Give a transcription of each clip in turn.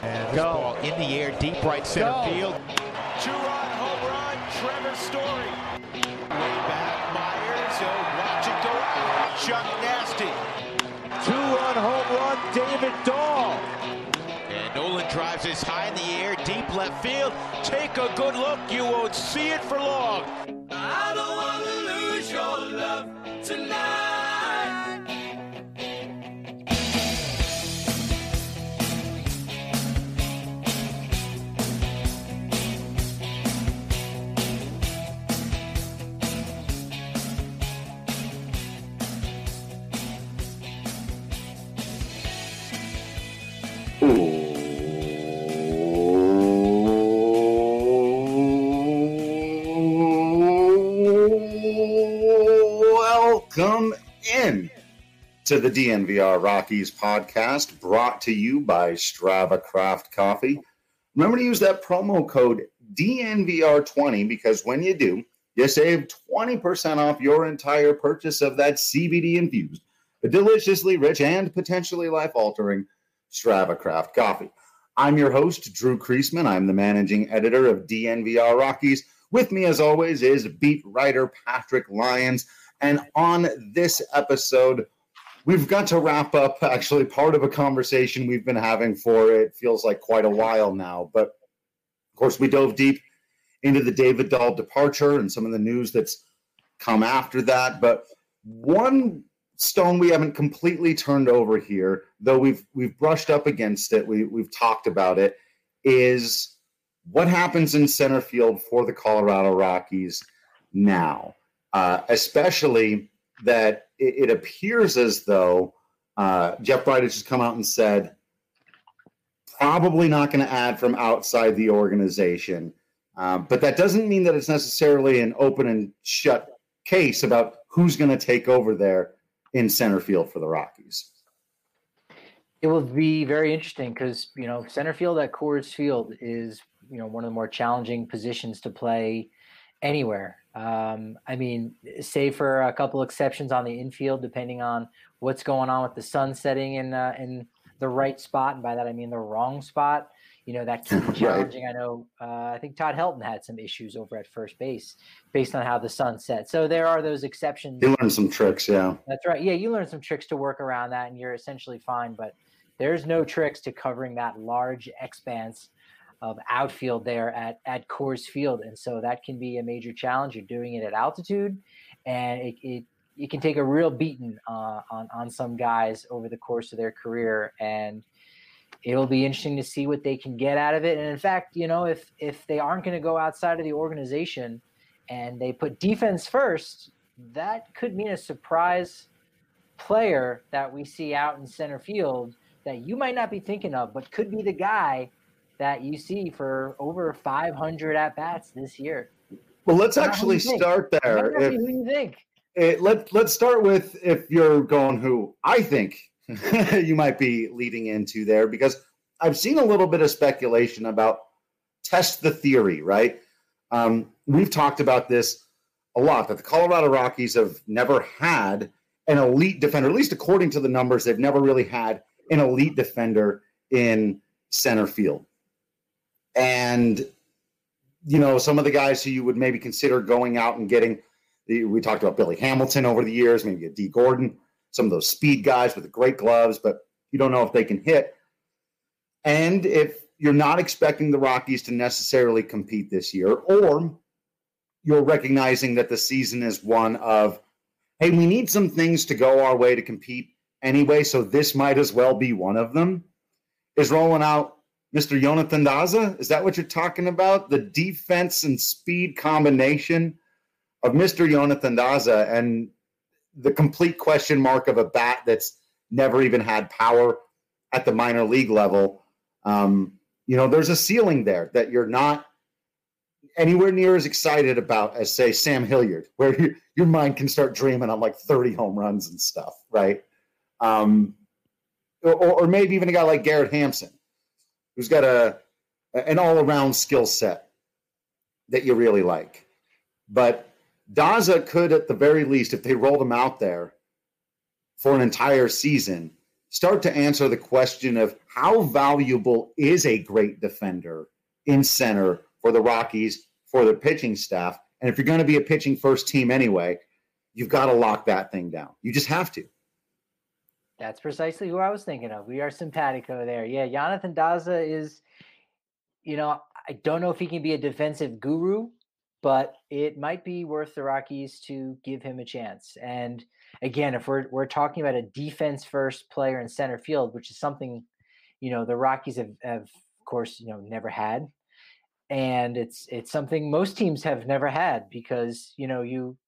And this ball in the air, deep right center field. Two-run home run, Trevor Story. Way back, Myers. Watch it go out. Chuck Nasty. Two-run home run, David Dahl. And Nolan drives this high in the air, deep left field. Take a good look. You won't see it for long. I don't want to lose your love tonight. Welcome in to the DNVR Rockies podcast, brought to you by Strava Craft Coffee. Remember to use that promo code DNVR20 because when you do, you save 20% off your entire purchase of that CBD-infused, deliciously rich, and potentially life-altering Strava Craft Coffee. I'm your host, Drew Kreisman. I'm the managing editor of DNVR Rockies. With me, as always, is beat writer Patrick Lyons. And on this episode, we've got to wrap up actually part of a conversation we've been having for, it feels like, quite a while now. But, of course, we dove deep into the David Dahl departure and some of the news that's come after that. But one stone we haven't completely turned over here, though we've brushed up against it, we've talked about it, is what happens in center field for the Colorado Rockies now. Especially that it appears as though Jeff Bridich has come out and said probably not going to add from outside the organization. But that doesn't mean that it's necessarily an open and shut case about who's going to take over there in center field for the Rockies. It will be very interesting because, center field at Coors Field is, one of the more challenging positions to play anywhere. Save for a couple exceptions on the infield, depending on what's going on with the sun setting in the right spot. And by that, I mean the wrong spot. That can be challenging. Right. I know, I think Todd Helton had some issues over at first base based on how the sun set. So there are those exceptions. You learn some tricks, yeah. That's right. Yeah, you learn some tricks to work around that, and you're essentially fine. But there's no tricks to covering that large expanse of outfield there at Coors Field. And so that can be a major challenge. You're doing it at altitude, and it can take a real beating on some guys over the course of their career. And it'll be interesting to see what they can get out of it. And in fact, if they aren't going to go outside of the organization and they put defense first, that could mean a surprise player that we see out in center field that you might not be thinking of, but could be the guy that you see for over 500 at-bats this year. Well, let's actually start there. Who do you think? Let's start with, if you're going who I think you might be leading into there, because I've seen a little bit of speculation about test the theory, right? We've talked about this a lot, that the Colorado Rockies have never had an elite defender, at least according to the numbers, they've never really had an elite defender in center field. And, some of the guys who you would maybe consider going out and getting, we talked about Billy Hamilton over the years, maybe a D. Gordon, some of those speed guys with the great gloves, but you don't know if they can hit. And if you're not expecting the Rockies to necessarily compete this year, or you're recognizing that the season is one of, hey, we need some things to go our way to compete anyway, so this might as well be one of them, is rolling out Mr. Jonathan Daza. Is that what you're talking about? The defense and speed combination of Mr. Jonathan Daza and the complete question mark of a bat that's never even had power at the minor league level. There's a ceiling there that you're not anywhere near as excited about as, say, Sam Hilliard, where your mind can start dreaming on like 30 home runs and stuff, right? Or maybe even a guy like Garrett Hampson, who's got an all-around skill set that you really like. But Daza could, at the very least, if they rolled him out there for an entire season, start to answer the question of how valuable is a great defender in center for the Rockies, for their pitching staff. And if you're going to be a pitching first team anyway, you've got to lock that thing down. You just have to. That's precisely who I was thinking of. We are simpatico there. Yeah, Jonathan Daza is, I don't know if he can be a defensive guru, but it might be worth the Rockies to give him a chance. And again, if we're talking about a defense first player in center field, which is something, the Rockies have of course, never had. And it's something most teams have never had because, there's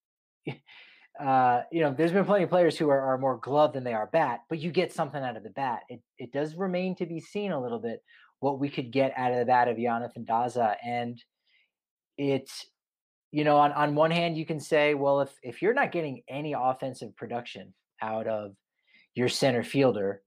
been plenty of players who are more glove than they are bat, but you get something out of the bat. It does remain to be seen a little bit what we could get out of the bat of Jonathan Daza. And it's, on one hand, you can say, well, if you're not getting any offensive production out of your center fielder,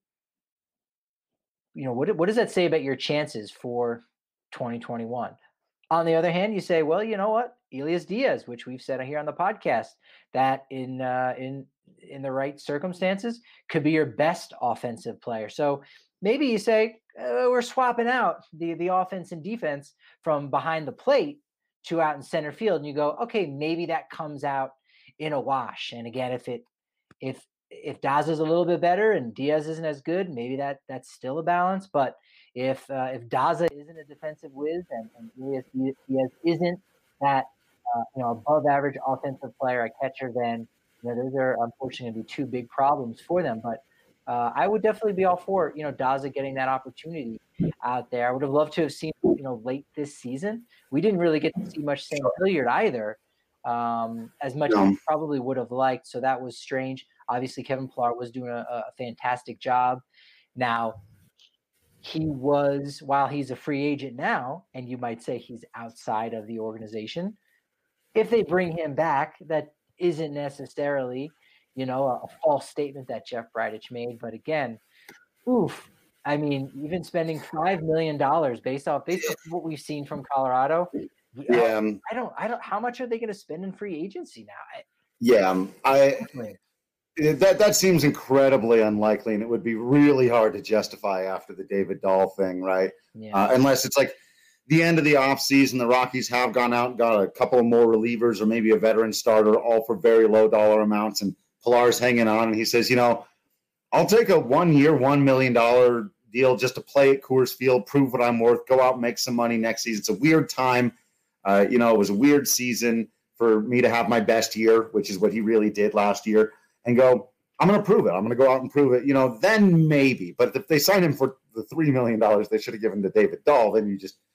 what does that say about your chances for 2021? On the other hand, you say, well, you know what? Elias Diaz, which we've said here on the podcast, that in the right circumstances could be your best offensive player. So maybe you say we're swapping out the offense and defense from behind the plate to out in center field, and you go, okay, maybe that comes out in a wash. And again, if Daza is a little bit better and Diaz isn't as good, maybe that's still a balance. But if Daza isn't a defensive whiz and Elias Diaz isn't that above average offensive player, a catcher, then those are unfortunately going to be two big problems for them. But I would definitely be all for Daza getting that opportunity out there. I would have loved to have seen late this season. We didn't really get to see much Sam Hilliard either, as much as we probably would have liked. So that was strange. Obviously, Kevin Pillar was doing a fantastic job. Now, while he's a free agent now, and you might say he's outside of the organization, if they bring him back, that isn't necessarily, a false statement that Jeff Bridich made. But again, even spending $5 million based off what we've seen from Colorado. Yeah. I don't. How much are they going to spend in free agency now? That seems incredibly unlikely, and it would be really hard to justify after the David Dahl thing, right? Yeah. Unless it's like the end of the offseason, the Rockies have gone out and got a couple of more relievers or maybe a veteran starter, all for very low dollar amounts, and Pillar's hanging on, and he says, I'll take a 1 year, $1 million deal just to play at Coors Field, prove what I'm worth, go out and make some money next season. It's a weird time. It was a weird season for me to have my best year, which is what he really did last year, and go, I'm going to prove it. I'm going to go out and prove it. Then maybe. But if they sign him for the $3 million they should have given to David Dahl, then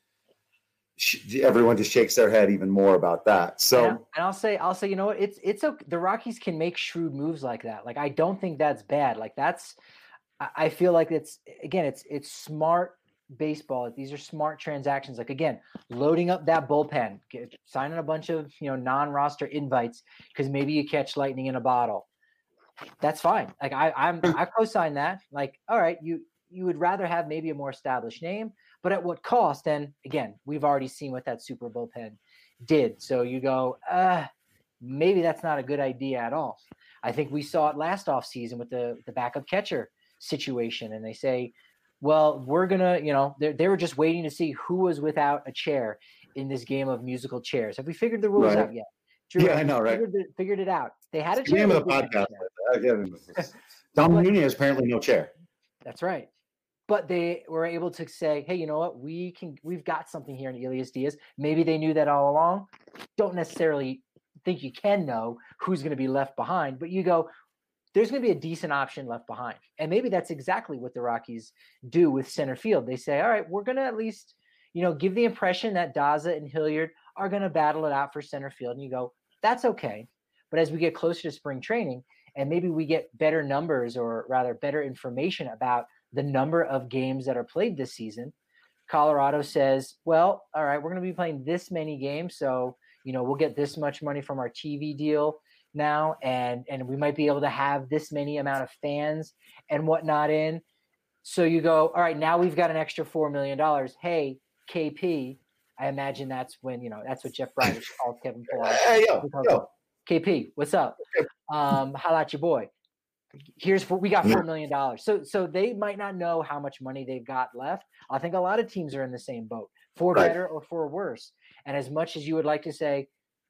everyone just shakes their head even more about that. So, and I'll say, it's okay. The Rockies can make shrewd moves like that. Like, I don't think that's bad. Like, I feel like it's smart baseball. These are smart transactions. Like, again, loading up that bullpen, signing a bunch of, non-roster invites because maybe you catch lightning in a bottle. That's fine. Like, I co-sign that. Like, all right, you would rather have maybe a more established name, but at what cost? And again, we've already seen what that super bullpen did. So you go, maybe that's not a good idea at all. I think we saw it last offseason with the backup catcher situation. And they say, well, we're going to, they were just waiting to see who was without a chair in this game of musical chairs. Have we figured the rules out yet? Drew, yeah, I know, right? Figured it out. They had a chair. Name of the podcast. Dom Nunez apparently no chair. That's right. But they were able to say, hey, you know what? We've got something here in Elias Diaz. Maybe they knew that all along. Don't necessarily think you can know who's going to be left behind, but you go, there's going to be a decent option left behind. And maybe that's exactly what the Rockies do with center field. They say, all right, we're going to at least, give the impression that Daza and Hilliard are going to battle it out for center field. And you go, that's okay. But as we get closer to spring training and maybe we get better numbers or rather better information about the number of games that are played this season, Colorado says, well, all right, we're going to be playing this many games. So, we'll get this much money from our TV deal now. And we might be able to have this many amount of fans and whatnot in. So you go, all right, now we've got an extra $4 million. Hey, KP, I imagine that's when, that's what Jeff Bridich called Kevin Pillar. Hey, yo. KP, what's up? Holla at your boy. we got $4 million. So they might not know how much money they've got left. I think a lot of teams are in the same boat, for better or for worse. And as much as you would like to say,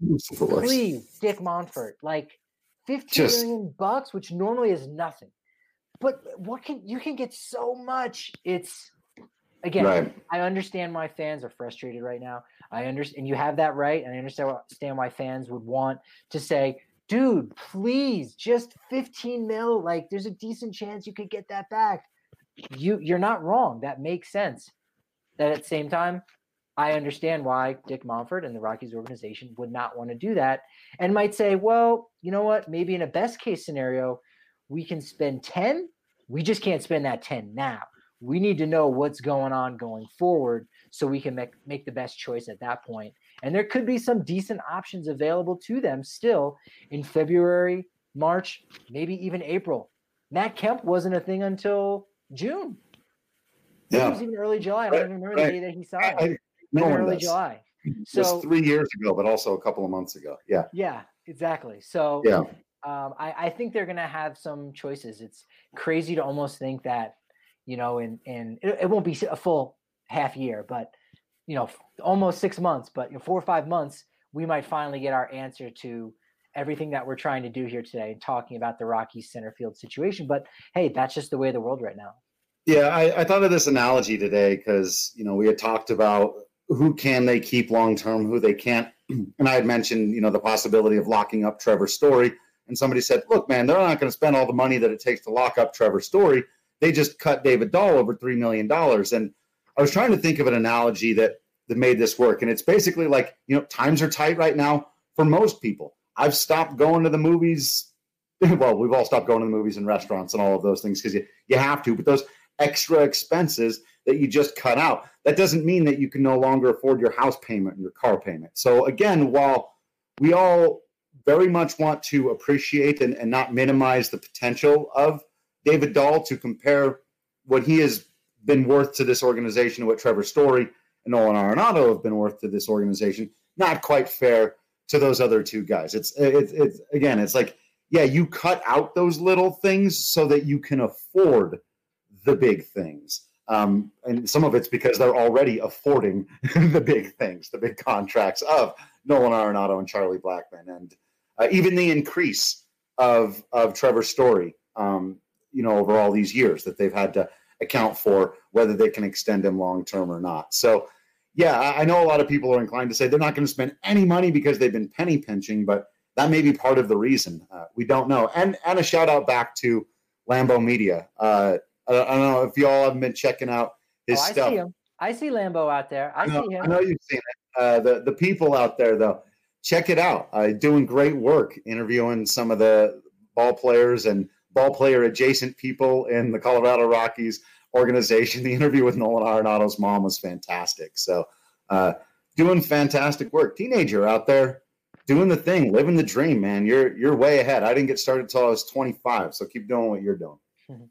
please, Dick Monfort, like $15 million, which normally is nothing. But you can get so much. It's again, I understand why fans are frustrated right now. I understand, and you have that right. And I understand why fans would want to say, dude, please, just 15 mil. Like, there's a decent chance you could get that back. You're not wrong. That makes sense. That at the same time, I understand why Dick Monfort and the Rockies organization would not want to do that and might say, well, you know what? Maybe in a best case scenario, we can spend 10. We just can't spend that 10 now. We need to know what's going on going forward so we can make the best choice at that point. And there could be some decent options available to them still in February, March, maybe even April. Matt Kemp wasn't a thing until June. Yeah. It was even early July. I don't even remember the day that he signed. Early July. So it was 3 years ago, but also a couple of months ago. Yeah. Yeah, exactly. So I think they're going to have some choices. It's crazy to almost think that, you know, it won't be a full half year, but, you know, almost 6 months, but 4 or 5 months, we might finally get our answer to everything that we're trying to do here today and talking about the Rockies center field situation. But hey, that's just the way of the world right now. Yeah, I thought of this analogy today because, you know, we had talked about who can they keep long-term, who they can't. And I had mentioned, you know, the possibility of locking up Trevor Story. And somebody said, look, man, they're not going to spend all the money that it takes to lock up Trevor Story. They just cut David Dahl over $3 million. And I was trying to think of an analogy that made this work. And it's basically like, you know, times are tight right now for most people. I've stopped going to the movies. Well, we've all stopped going to the movies and restaurants and all of those things because you have to. But those extra expenses that you just cut out, that doesn't mean that you can no longer afford your house payment and your car payment. So again, while we all very much want to appreciate and not minimize the potential of David Dahl, to compare what he has been worth to this organization to what Trevor Story and Nolan Arenado have been worth to this organization, not quite fair to those other two guys. It's again, it's like, yeah, you cut out those little things so that you can afford the big things. And some of it's because they're already affording the big things, the big contracts of Nolan Arenado and Charlie Blackmon. And even the increase of Trevor Story, you know, over all these years that they've had to account for whether they can extend him long-term or not. So, yeah, I know a lot of people are inclined to say they're not going to spend any money because they've been penny pinching, but that may be part of the reason. We don't know. And a shout out back to Lambeau Media. I don't know if you all haven't been checking out his stuff. I see him. I see Lambeau out there. I see him. I know you've seen it. The people out there, though, check it out. Doing great work, interviewing some of the ball players and ball player adjacent people in the Colorado Rockies organization. The interview with Nolan Arenado's mom was fantastic. So doing fantastic work. Teenager out there doing the thing, living the dream, man. You're way ahead. I didn't get started until I was 25, so keep doing what you're doing.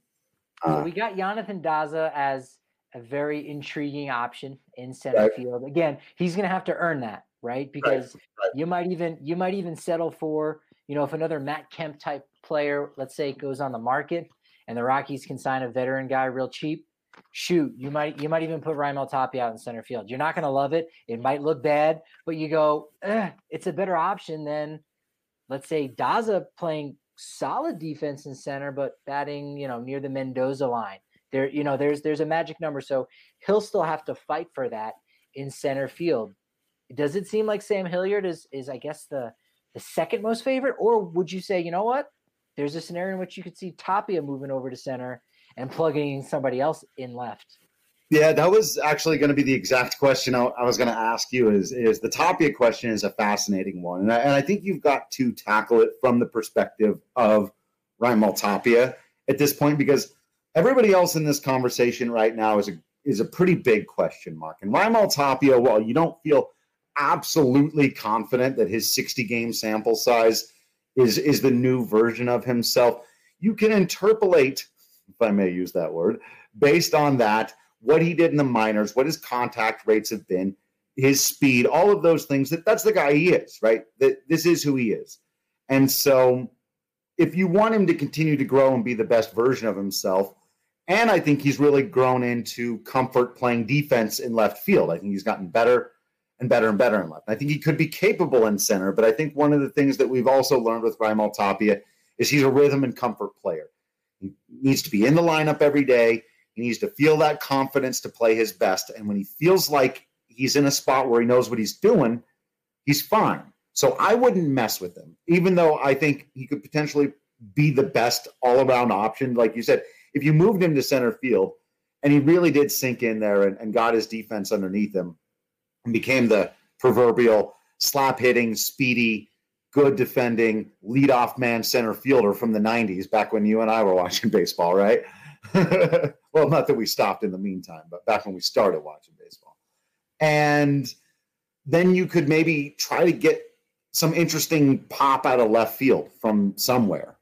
We got Jonathan Daza as a very intriguing option in center field. Again, he's going to have to earn that, right? Because you might even settle for, you know, if another Matt Kemp type player, let's say, goes on the market and the Rockies can sign a veteran guy real cheap, shoot, you might even put Raimel Tapia out in center field. You're not going to love it. It might look bad, but you go, it's a better option than, let's say, Daza playing solid defense in center, but batting, you know, near the Mendoza line. There, you know, there's a magic number. So he'll still have to fight for that in center field. Does it seem like Sam Hilliard is I guess the second most favorite, or would you say, you know what, there's a scenario in which you could see Tapia moving over to center and plugging somebody else in left? Yeah, that was actually going to be the exact question I was going to ask you. Is the Tapia question is a fascinating one, and I think you've got to tackle it from the perspective of Raimel Tapia at this point, because everybody else in this conversation right now is a pretty big question mark. And Raimel Tapia, while you don't feel absolutely confident that his 60-game sample size is the new version of himself, you can interpolate, if I may use that word, based on that, what he did in the minors, what his contact rates have been, his speed, all of those things. That's the guy he is, right? This is who he is. And so if you want him to continue to grow and be the best version of himself, and I think he's really grown into comfort playing defense in left field. I think he's gotten better and better and better in left. I think he could be capable in center, but I think one of the things that we've also learned with Raimel Tapia is he's a rhythm and comfort player. He needs to be in the lineup every day. He needs to feel that confidence to play his best. And when he feels like he's in a spot where he knows what he's doing, he's fine. So I wouldn't mess with him, even though I think he could potentially be the best all-around option. Like you said, if you moved him to center field and he really did sink in there and got his defense underneath him and became the proverbial slap-hitting, speedy, good defending, leadoff man center fielder from the 90s, back when you and I were watching baseball, right? Well, not that we stopped in the meantime, but back when we started watching baseball. And then you could maybe try to get some interesting pop out of left field from somewhere,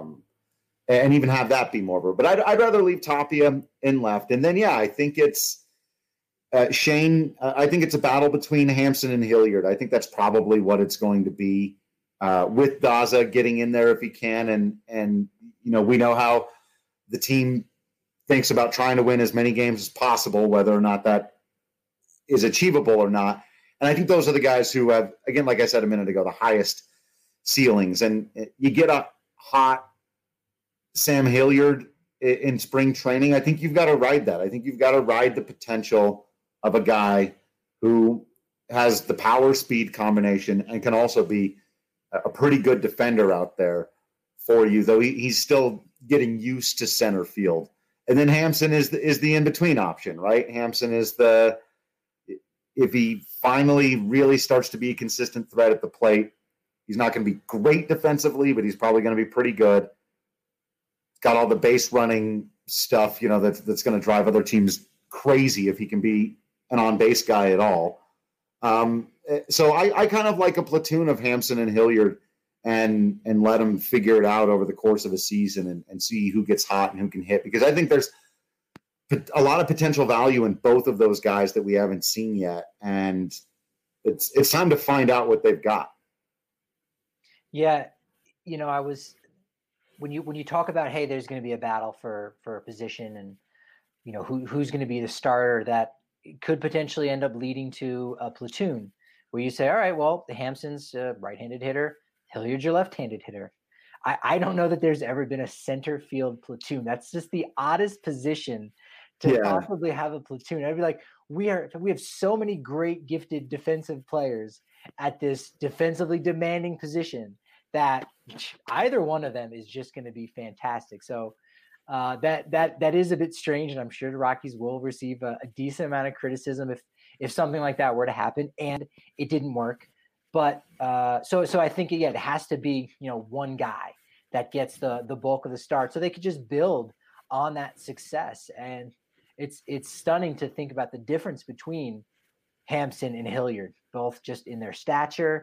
and even have that be more of a. But I'd rather leave Tapia in left. And then, yeah, I think it's Shane. I think it's a battle between Hampson and Hilliard. I think that's probably what it's going to be, with Daza getting in there if he can. And we know how the team thinks about trying to win as many games as possible, whether or not that is achievable or not. And I think those are the guys who have, again, like I said a minute ago, the highest ceilings. And you get a hot Sam Hilliard in spring training, I think you've got to ride that. I think you've got to ride the potential of a guy who has the power speed combination and can also be a pretty good defender out there for you, though he's still getting used to center field. And then Hampson is the in-between option, right? Hampson is if he finally really starts to be a consistent threat at the plate, he's not going to be great defensively, but he's probably going to be pretty good. He's got all the base running stuff, that's going to drive other teams crazy if he can be an on-base guy at all. So I kind of like a platoon of Hampson and Hilliard and let them figure it out over the course of a season and see who gets hot and who can hit, because I think there's a lot of potential value in both of those guys that we haven't seen yet, and it's time to find out what they've got. Yeah, I was when you talk about, hey, there's going to be a battle for a position, and who's going to be the starter, that could potentially end up leading to a platoon where you say, all right, well, Hampson's a right-handed hitter, Hilliard's your left-handed hitter. I don't know that there's ever been a center field platoon. That's just the oddest position to possibly have a platoon. I'd be like, we have so many great gifted defensive players at this defensively demanding position that either one of them is just going to be fantastic. So that is a bit strange, and I'm sure the Rockies will receive a decent amount of criticism if something like that were to happen and it didn't work. But so I think it has to be one guy that gets the bulk of the start, so they could just build on that success. And it's stunning to think about the difference between Hampson and Hilliard, both just in their stature.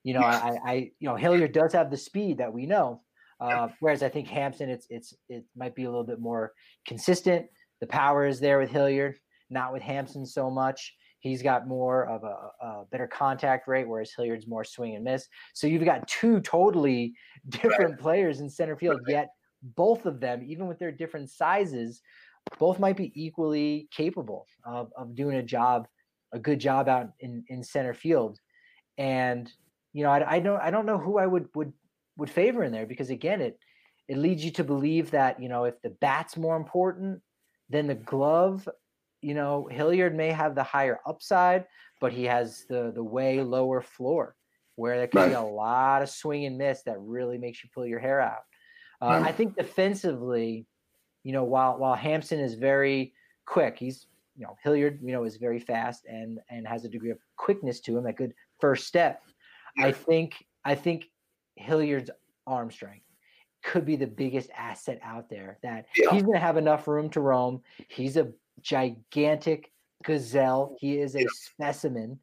Hilliard does have the speed that we know, whereas I think Hampson it might be a little bit more consistent. The power is there with Hilliard, not with Hampson so much. He's got more of a better contact rate, whereas Hilliard's more swing and miss. So you've got two totally different players in center field, yet both of them, even with their different sizes, both might be equally capable of doing a good job out in center field. And, I don't know who I would favor in there, because again, it leads you to believe that, if the bat's more important than the glove, Hilliard may have the higher upside, but he has the way lower floor, where there can be a lot of swing and miss that really makes you pull your hair out. I think defensively, while Hampson is very quick, he's, Hilliard, is very fast and has a degree of quickness to him, a good first step. I think Hilliard's arm strength could be the biggest asset out there, that he's going to have enough room to roam. He's a gigantic gazelle. He is a specimen.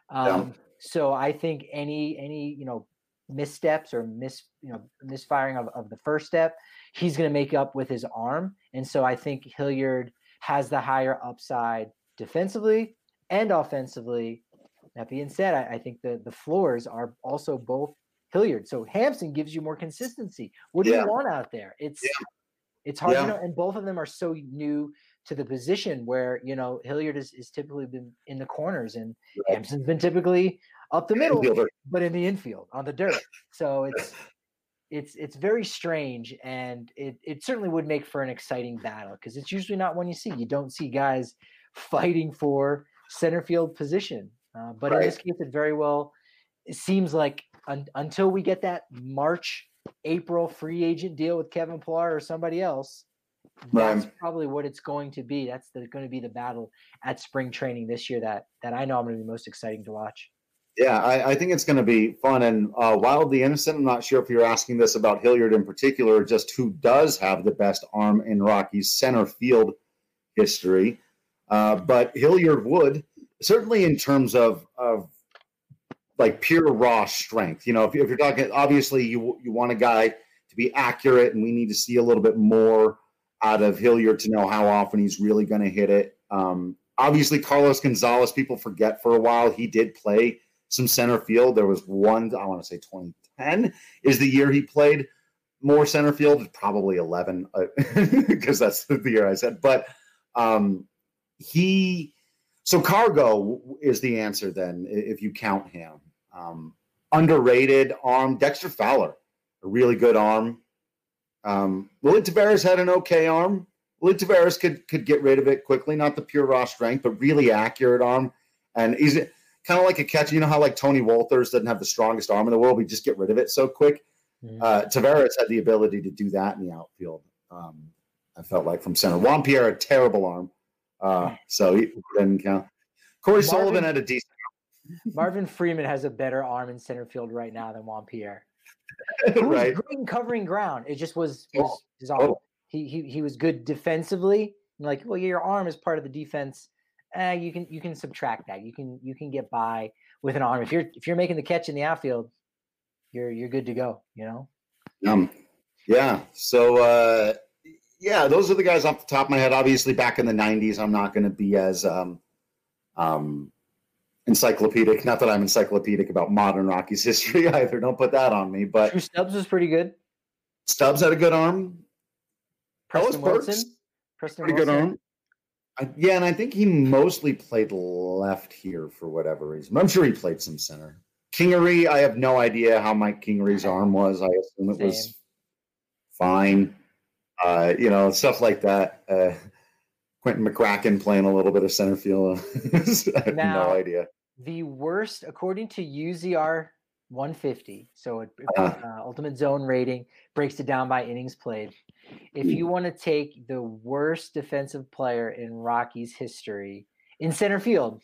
So I think any missteps or misfiring of the first step, he's going to make up with his arm. And so I think Hilliard has the higher upside defensively and offensively. That being said, I think the floors are also both Hilliard. So Hampson gives you more consistency. What do you want out there? It's hard to know, and both of them are so new to the position where, you know, Hilliard is typically been in the corners and Hampson's been typically up the middle, but in the infield on the dirt. So it's very strange, and it certainly would make for an exciting battle because it's usually not one you see. You don't see guys fighting for center field position, but in this case, it seems like until we get that April free agent deal with Kevin Pillar or somebody else, that's probably what it's going to be. That's going to be the battle at spring training this year that I know I'm going to be most exciting to watch. Yeah, I think it's going to be fun. And wildly innocent, I'm not sure if you're asking this about Hilliard in particular, just who does have the best arm in Rockies center field history. But Hilliard would, certainly in terms of like pure raw strength. You know, if you're talking, obviously you want a guy to be accurate, and we need to see a little bit more out of Hilliard to know how often he's really going to hit it. Obviously, Carlos Gonzalez, people forget for a while, he did play some center field. There was one, I want to say 2010 is the year he played more center field, probably 11, because that's the year I said. But so Cargo is the answer then, if you count him. Underrated arm, Dexter Fowler, a really good arm. Willie Taveras had an okay arm. Willie Taveras could get rid of it quickly, not the pure raw strength, but really accurate arm. And he's kind of like a catcher. You know how like Tony Walters doesn't have the strongest arm in the world? We just get rid of it so quick. Taveras had the ability to do that in the outfield. I felt like from center. Juan Pierre had a terrible arm, so he didn't count. Corey Sullivan had a decent arm. Marvin Freeman has a better arm in center field right now than Juan Pierre. Right. Great in covering ground. It just was his arm. He was good defensively. Like, well, your arm is part of the defense. You can subtract that. You can get by with an arm. If you're making the catch in the outfield, you're good to go. You know. Yeah. So those are the guys off the top of my head. Obviously, back in the '90s, I'm not going to be as encyclopedic. Not that I'm encyclopedic about modern Rockies history either. Don't put that on me. But Drew Stubbs was pretty good. Stubbs had a good arm. Preston Wilson. Pretty good arm. And I think he mostly played left here for whatever reason. I'm sure he played some center. Kingery, I have no idea how Mike Kingery's arm was. I assume it was fine. Stuff like that. Quentin McCracken playing a little bit of center field. I have no idea. The worst, according to UZR 150, so Ultimate Zone rating breaks it down by innings played. If you want to take the worst defensive player in Rockies history in center field,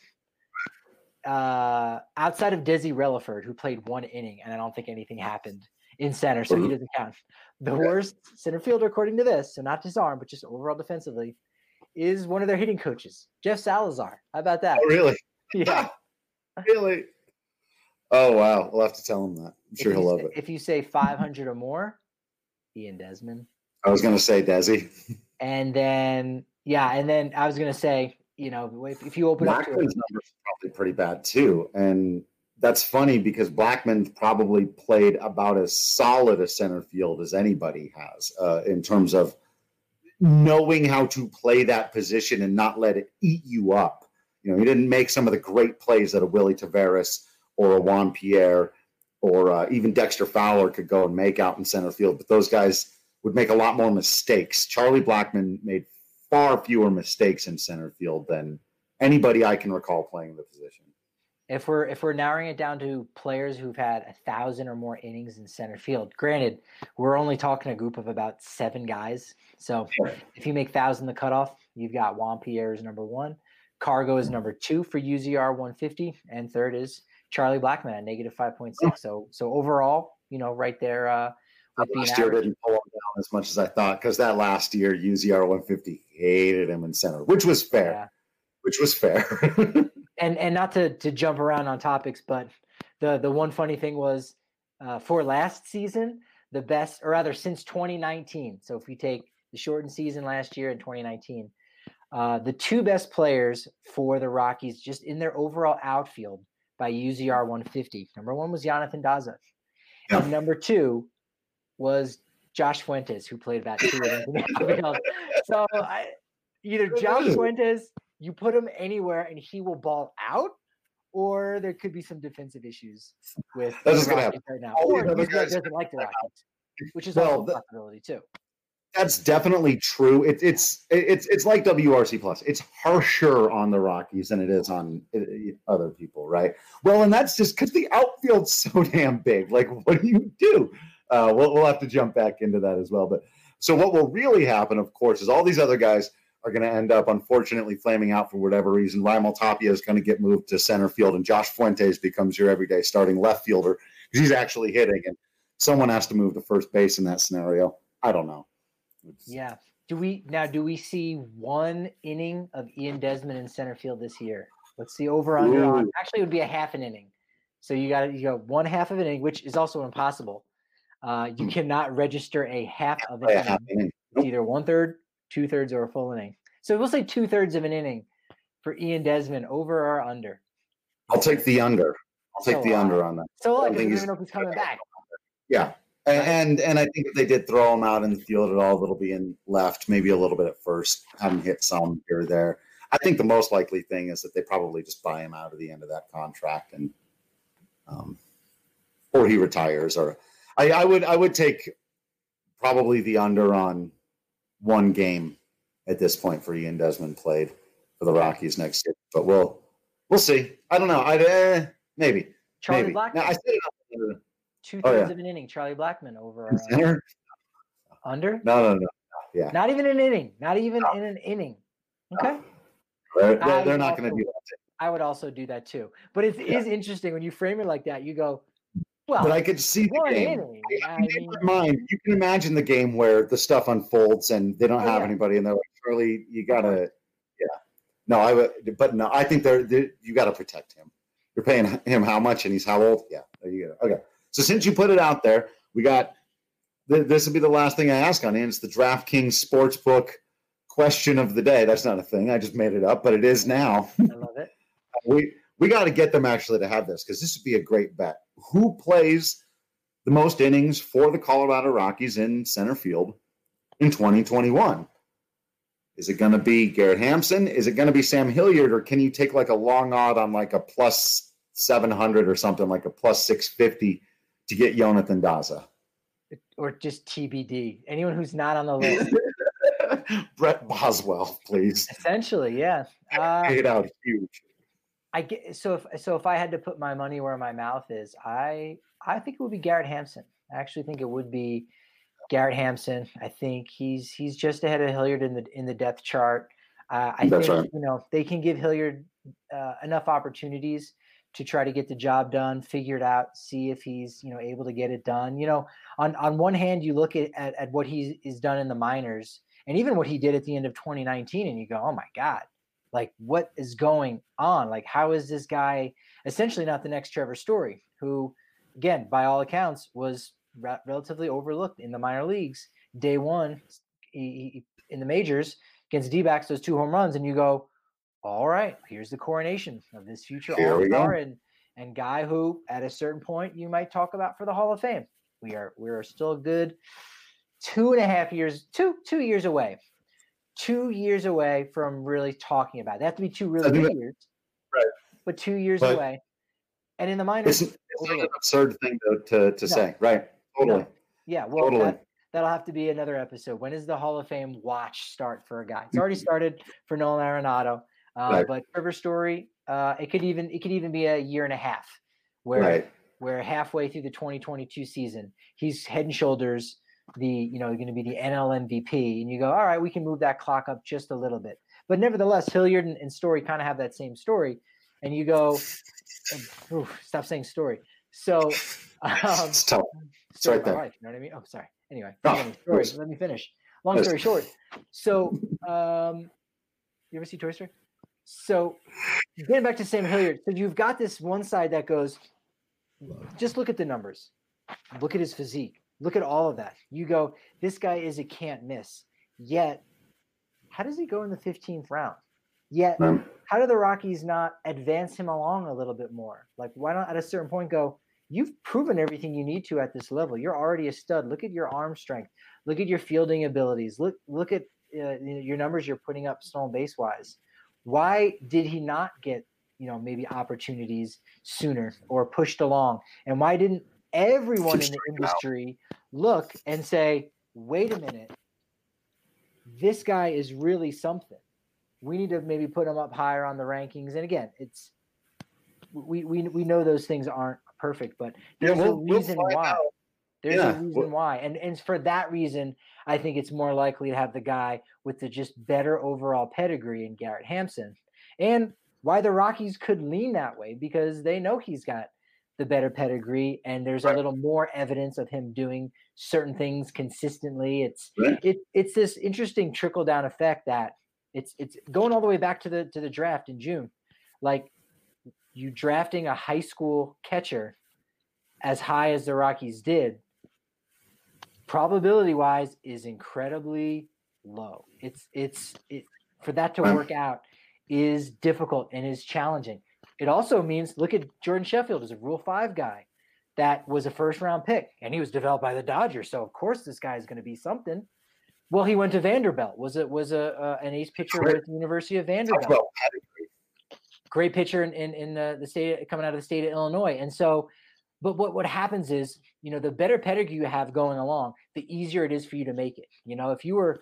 outside of Desi Relaford, who played one inning, and I don't think anything happened in center, so he doesn't count. The worst center fielder, according to this, so not just arm, but just overall defensively, is one of their hitting coaches, Jeff Salazar. How about that? Oh, really? Yeah. Really? Oh, wow. We'll have to tell him that. I'm sure he'll love it. If you say 500 or more, Ian Desmond. I was going to say Desi. And then I was going to say, if you open up to it. Blackman's numbers are probably pretty bad too. And that's funny because Blackman probably played about as solid a center field as anybody has in terms of knowing how to play that position and not let it eat you up. He didn't make some of the great plays that a Willie Taveras or a Juan Pierre or even Dexter Fowler could go and make out in center field. But those guys would make a lot more mistakes. Charlie Blackman made far fewer mistakes in center field than anybody I can recall playing the position. If we're narrowing it down to players who've had 1,000 or more innings in center field, granted, we're only talking a group of about 7 guys. So if you make 1,000 the cutoff, you've got Juan Pierre as number 1. Cargo is number 2 for UZR 150, and third is Charlie Blackman at -5.6. So overall, right there. Last year didn't pull him down as much as I thought because that last year UZR 150 hated him in center, which was fair. Yeah. Which was fair. and not to jump around on topics, but the one funny thing was for last season, the best, or rather since 2019. So if we take the shortened season last year and 2019, the 2 best players for the Rockies just in their overall outfield by UZR 150. Number 1 was Jonathan Daza. Yeah. And number 2 was Josh Fuentes, who played about 2 innings in the outfield. So either Josh Fuentes, you put him anywhere and he will ball out, or there could be some defensive issues with the Rockies right now. Or he doesn't like the Rockies, which is also a possibility too. That's definitely true. It's like WRC Plus. It's harsher on the Rockies than it is on other people, right? Well, and that's just because the outfield's so damn big. Like, what do you do? We'll have to jump back into that as well. But so what will really happen, of course, is all these other guys are going to end up, unfortunately, flaming out for whatever reason. Raimel Tapia is going to get moved to center field, and Josh Fuentes becomes your everyday starting left fielder because he's actually hitting, and someone has to move to first base in that scenario. I don't know. Yeah. Do we see 1 inning of Ian Desmond in center field this year? What's the over under on? Actually, it would be a half an inning. So you got 1/2 of an inning, which is also impossible. You cannot register a half of an inning. It's either 1/3, 2/3, or a full inning. So we'll say 2/3 of an inning for Ian Desmond, over or under. I'll take the under. I'll take the under on that. So I don't even know if he's coming back. Yeah. And I think if they did throw him out in the field at all, it'll be in left, maybe a little bit at first, have him hit some here or there. I think the most likely thing is that they probably just buy him out at the end of that contract, and or he retires. Or I would take probably the under on 1 game at this point for Ian Desmond played for the Rockies next year. But we'll see. I don't know. Maybe. Charlie Blackmon. Now, I said it 2/3 of an inning. Charlie Blackmon over center. Under? No. Yeah. Not even an inning. Not even in an inning. Okay. They're not going to do that. I would also do that too. But it is interesting when you frame it like that. You go, well, but I could see the game. Inning. In your mind, you can imagine the game where the stuff unfolds and they don't have anybody, and they're like, Charlie, you gotta, No, I would, but no, I think you got to protect him. You're paying him how much, and he's how old? Yeah, there you go. Okay. So since you put it out there, we got this will be the last thing I ask on it. It's the DraftKings Sportsbook question of the day. That's not a thing. I just made it up, but it is now. I love it. We got to get them actually to have this because this would be a great bet. Who plays the most innings for the Colorado Rockies in center field in 2021? Is it going to be Garrett Hampson? Is it going to be Sam Hilliard? Or can you take like a long odd on like a plus 700 or something, like a plus 650 to get Jonathan Daza? Or just TBD. Anyone who's not on the list. Brett Boswell, please. Essentially, yeah. Paid out huge. So if I had to put my money where my mouth is, I think it would be Garrett Hampson. I actually think it would be Garrett Hampson. I think he's just ahead of Hilliard in the depth chart. I think right. They can give Hilliard enough opportunities to try to get the job done, figure it out, see if he's able to get it done. On one hand, you look at what he's done in the minors, and even what he did at the end of 2019, and you go, oh my God, like what is going on? Like how is this guy essentially not the next Trevor Story, who, again, by all accounts, was relatively overlooked in the minor leagues. Day one, he in the majors against D-backs, those 2 home runs, and you go, all right, here's the coronation of this future all-star and guy who, at a certain point, you might talk about for the Hall of Fame. We are still a good 2.5 years, 2 years away. 2 years away from really talking about it. They have to be 2 really good years, right? But 2 years away. And in the minors, it's not an absurd thing to say, right? Totally. No. Yeah, well, totally. That'll have to be another episode. When does the Hall of Fame watch start for a guy? It's already started for Nolan Arenado, right. But Trevor Story, it could even be a year and a half, where halfway through the 2022 season, he's head and shoulders going to be the NL MVP, and you go, all right, we can move that clock up just a little bit. But nevertheless, Hilliard and Story kind of have that same story, and you go, stop saying story. So it's tough. It's right there. Life, you know what I mean? Oh, sorry. Anyway, story. Let me finish. Long story short. So, you ever see Toy Story? So, getting back to Sam Hilliard. So you've got this one side that goes, just look at the numbers. Look at his physique. Look at all of that. You go, this guy is a can't miss. Yet, how does he go in the 15th round? Yet, how do the Rockies not advance him along a little bit more? Like, why not at a certain point go, you've proven everything you need to at this level. You're already a stud. Look at your arm strength. Look at your fielding abilities. Look at your numbers you're putting up stolen base wise. Why did he not get, maybe opportunities sooner or pushed along? And why didn't everyone in the industry look and say, wait a minute, this guy is really something. We need to maybe put him up higher on the rankings. And again, we know those things aren't perfect, but there's a reason why. There's a reason why. And for that reason, I think it's more likely to have the guy with the just better overall pedigree in Garrett Hampson. And why the Rockies could lean that way, because they know he's got the better pedigree and there's a little more evidence of him doing certain things consistently. It's this interesting trickle down effect that it's going all the way back to the draft in June. Like, you drafting a high school catcher as high as the Rockies did, probability wise, is incredibly low. It's for that to work out is difficult and is challenging. It also means, look at Jordan Sheffield as a Rule 5 guy that was a first-round pick, and he was developed by the Dodgers. So of course this guy is going to be something. Well, he went to Vanderbilt. Was an ace pitcher with the University of Vanderbilt. Great pitcher in the state, coming out of the state of Illinois. And so, but what happens is, the better pedigree you have going along, the easier it is for you to make it. If you were,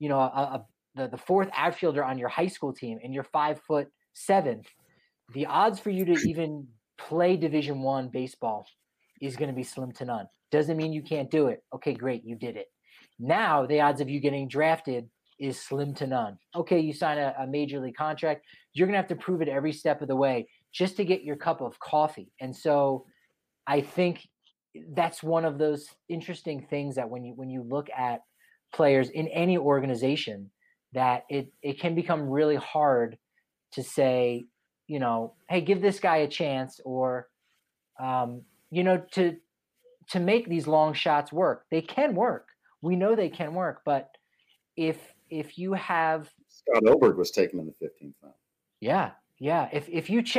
the fourth outfielder on your high school team and you're 5'7", the odds for you to even play Division I baseball is going to be slim to none. Doesn't mean you can't do it. Okay, great, you did it. Now the odds of you getting drafted is slim to none. Okay, you sign a major league contract. You're going to have to prove it every step of the way just to get your cup of coffee. And so I think that's one of those interesting things that when you look at players in any organization, that it can become really hard to say, hey, give this guy a chance, or, to make these long shots work. They can work. We know they can work, but if you have Scott Oberg was taken in the 15th round. Yeah. If you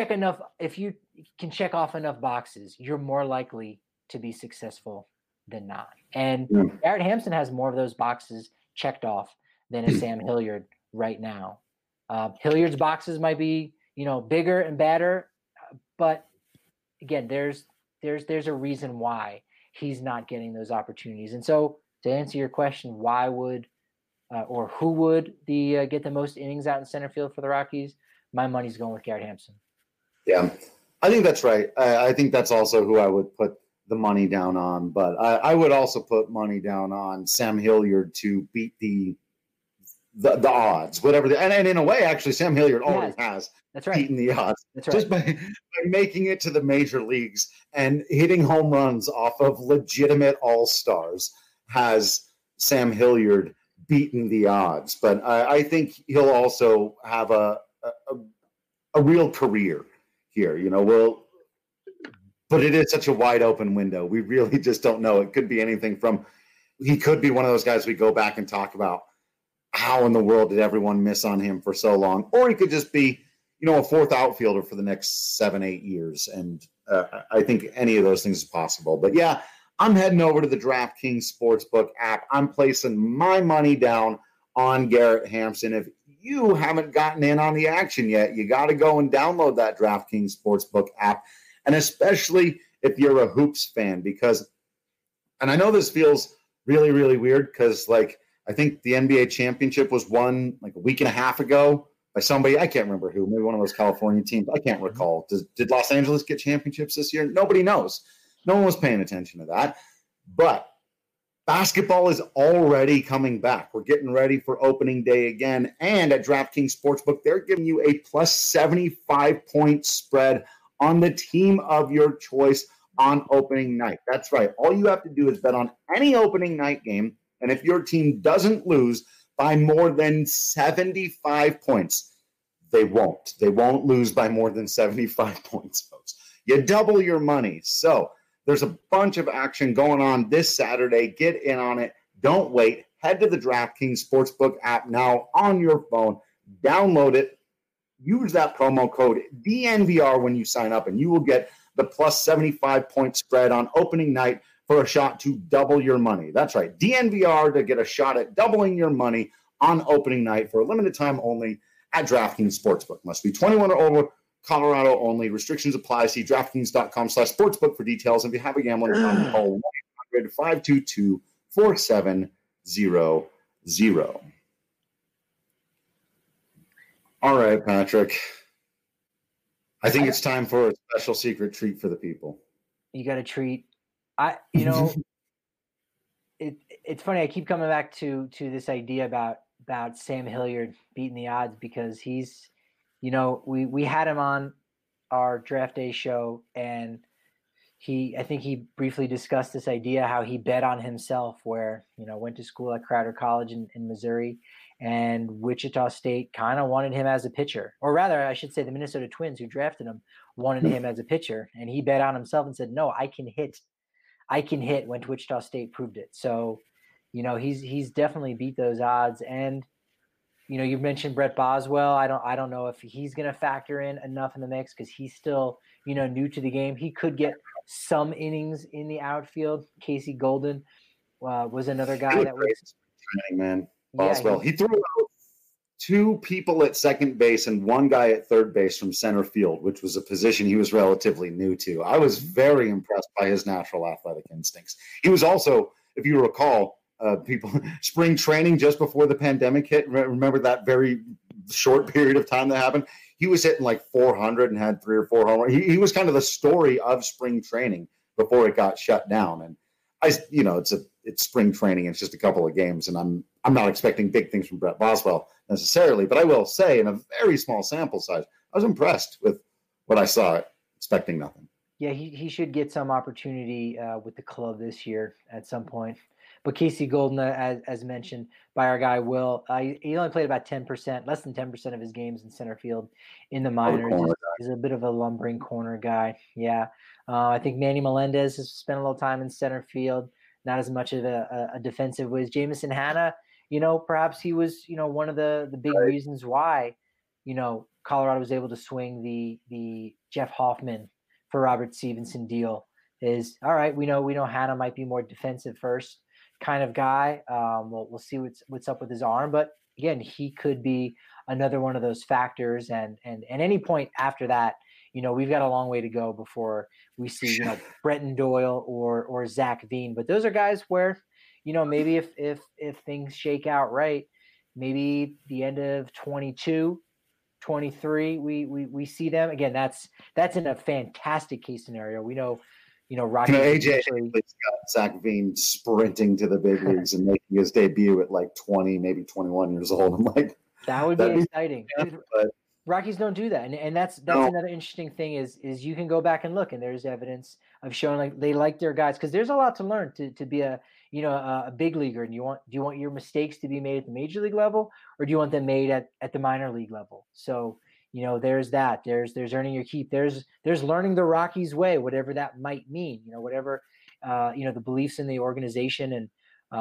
can check off enough boxes, you're more likely to be successful than not. And Garrett Hampson has more of those boxes checked off than a Sam Hilliard right now. Hilliard's boxes might be, bigger and better, but again, there's a reason why he's not getting those opportunities. And so, to answer your question, why would or who would get the most innings out in center field for the Rockies? My money's going with Garrett Hampson. Yeah, I think that's right. I think that's also who I would put the money down on. But I would also put money down on Sam Hilliard to beat the odds, whatever. And in a way, actually, Sam Hilliard already has beaten the odds. That's right. Just by making it to the major leagues and hitting home runs off of legitimate all-stars has Sam Hilliard beaten the odds. But I think he'll also have a real career here, but it is such a wide open window. We really just don't know. It could be anything from, he could be one of those guys we go back and talk about, how in the world did everyone miss on him for so long? Or he could just be, a fourth outfielder for the next 7-8 years. And I think any of those things is possible. But yeah, I'm heading over to the DraftKings Sportsbook app. I'm placing my money down on Garrett Hampson. If you haven't gotten in on the action yet, you got to go and download that DraftKings Sportsbook app. And especially if you're a hoops fan, and I know this feels really, really weird because, I think the NBA championship was won a week and a half ago by somebody. I can't remember who, maybe one of those California teams. I can't recall. Did Los Angeles get championships this year? Nobody knows. No one was paying attention to that. But basketball is already coming back. We're getting ready for opening day again. And at DraftKings Sportsbook, they're giving you a plus 75-point spread on the team of your choice on opening night. That's right. All you have to do is bet on any opening night game. And if your team doesn't lose by more than 75 points, they won't. They won't lose by more than 75 points, folks. You double your money. So there's a bunch of action going on this Saturday. Get in on it. Don't wait. Head to the DraftKings Sportsbook app now on your phone. Download it. Use that promo code DNVR when you sign up, and you will get the plus 75 point spread on opening night for a shot to double your money. That's right, DNVR to get a shot at doubling your money on opening night for a limited time only at DraftKings Sportsbook. Must be 21 or over, Colorado only. Restrictions apply. See DraftKings.com/sportsbook for details. If you have a gambling problem, call 1-800-522-4700. All right, Patrick. I think it's time for a special secret treat for the people. You got a treat. It's funny. I keep coming back to this idea about Sam Hilliard beating the odds because he's, we had him on our draft day show, and I think he briefly discussed this idea how he bet on himself, where went to school at Crowder College in Missouri, and Wichita State kind of wanted him as a pitcher, or rather, I should say, the Minnesota Twins, who drafted him, wanted him as a pitcher, and he bet on himself and said, "No, I can hit." Went to Wichita State, proved it. So, he's definitely beat those odds. And you mentioned Brett Boswell. I don't know if he's going to factor in enough in the mix because he's still new to the game. He could get some innings in the outfield. Casey Golden was another guy that was training, man. Boswell. He threw out 2 people at second base and 1 guy at third base from center field, which was a position he was relatively new to. I was very impressed by his natural athletic instincts. He was also, if you recall, spring training just before the pandemic hit. Remember that very short period of time that happened? He was hitting like 400 and had 3 or 4 home runs. He was kind of the story of spring training before it got shut down. And it's spring training. It's just a couple of games, and I'm not expecting big things from Brett Boswell necessarily, but I will say, in a very small sample size, I was impressed with what I saw, expecting nothing. Yeah, he should get some opportunity with the club this year at some point. But Casey Golden, as mentioned by our guy Will, he only played about 10%, less than 10% of his games in center field in the minors. He's a bit of a lumbering corner guy. Yeah, I think Manny Melendez has spent a little time in center field, not as much of a defensive whiz. Jameson Hanna, perhaps he was, one of the big reasons why, Colorado was able to swing the Jeff Hoffman for Robert Stevenson deal. Is all right. We know Hanna might be more defensive first kind of guy. We'll see what's up with his arm, but again, he could be another one of those factors. And any point after that, we've got a long way to go before we see, Brenton Doyle or Zach Veen. But those are guys where, maybe if things shake out right, maybe the end of 22, 23, we see them again. That's in a fantastic case scenario. We know, Rocky. AJ got Zach Veen sprinting to the big leagues and making his debut at like 20, maybe 21 years old. I'm like, that would be exciting. But Rockies don't do that, and that's another interesting thing is you can go back and look, and there's evidence of showing like they like their guys because there's a lot to learn to be a big leaguer. And do you want your mistakes to be made at the major league level, or do you want them made at the minor league level? So there's that. There's earning your keep. There's learning the Rockies way, whatever that might mean. Whatever the beliefs in the organization, and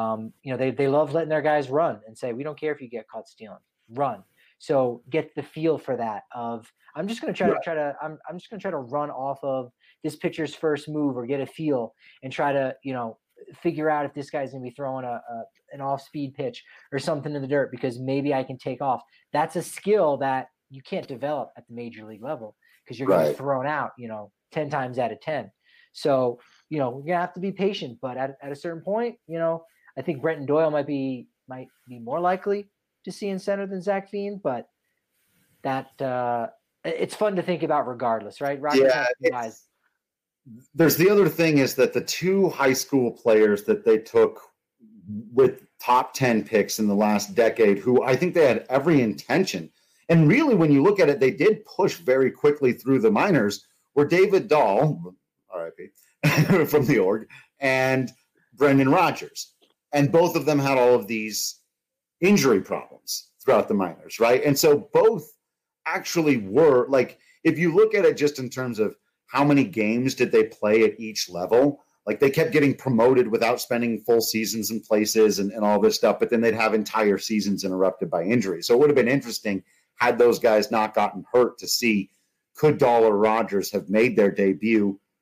they love letting their guys run and say, we don't care if you get caught stealing, run. So get the feel for that of I'm just going to try to run off of this pitcher's first move or get a feel and try to figure out if this guy's going to be throwing an off-speed pitch or something in the dirt because maybe I can take off. That's a skill that you can't develop at the major league level because you're going to get thrown out 10 times out of 10. So we're going to have to be patient, but at a certain point, I think Brenton Doyle might be more likely to see in center than Zach Veen, but that it's fun to think about regardless, right? Guys. There's the other thing is that the 2 high school players that they took with top 10 picks in the last decade, who I think they had every intention, and really when you look at it, they did push very quickly through the minors, were David Dahl, RIP, from the org, and Brendan Rodgers. And both of them had all of these injury problems throughout the minors, right? And so both actually were, like, if you look at it just in terms of how many games did they play at each level, like they kept getting promoted without spending full seasons in places and all this stuff, but then they'd have entire seasons interrupted by injury. So it would have been interesting had those guys not gotten hurt to see could Dahl or Rodgers have made their debut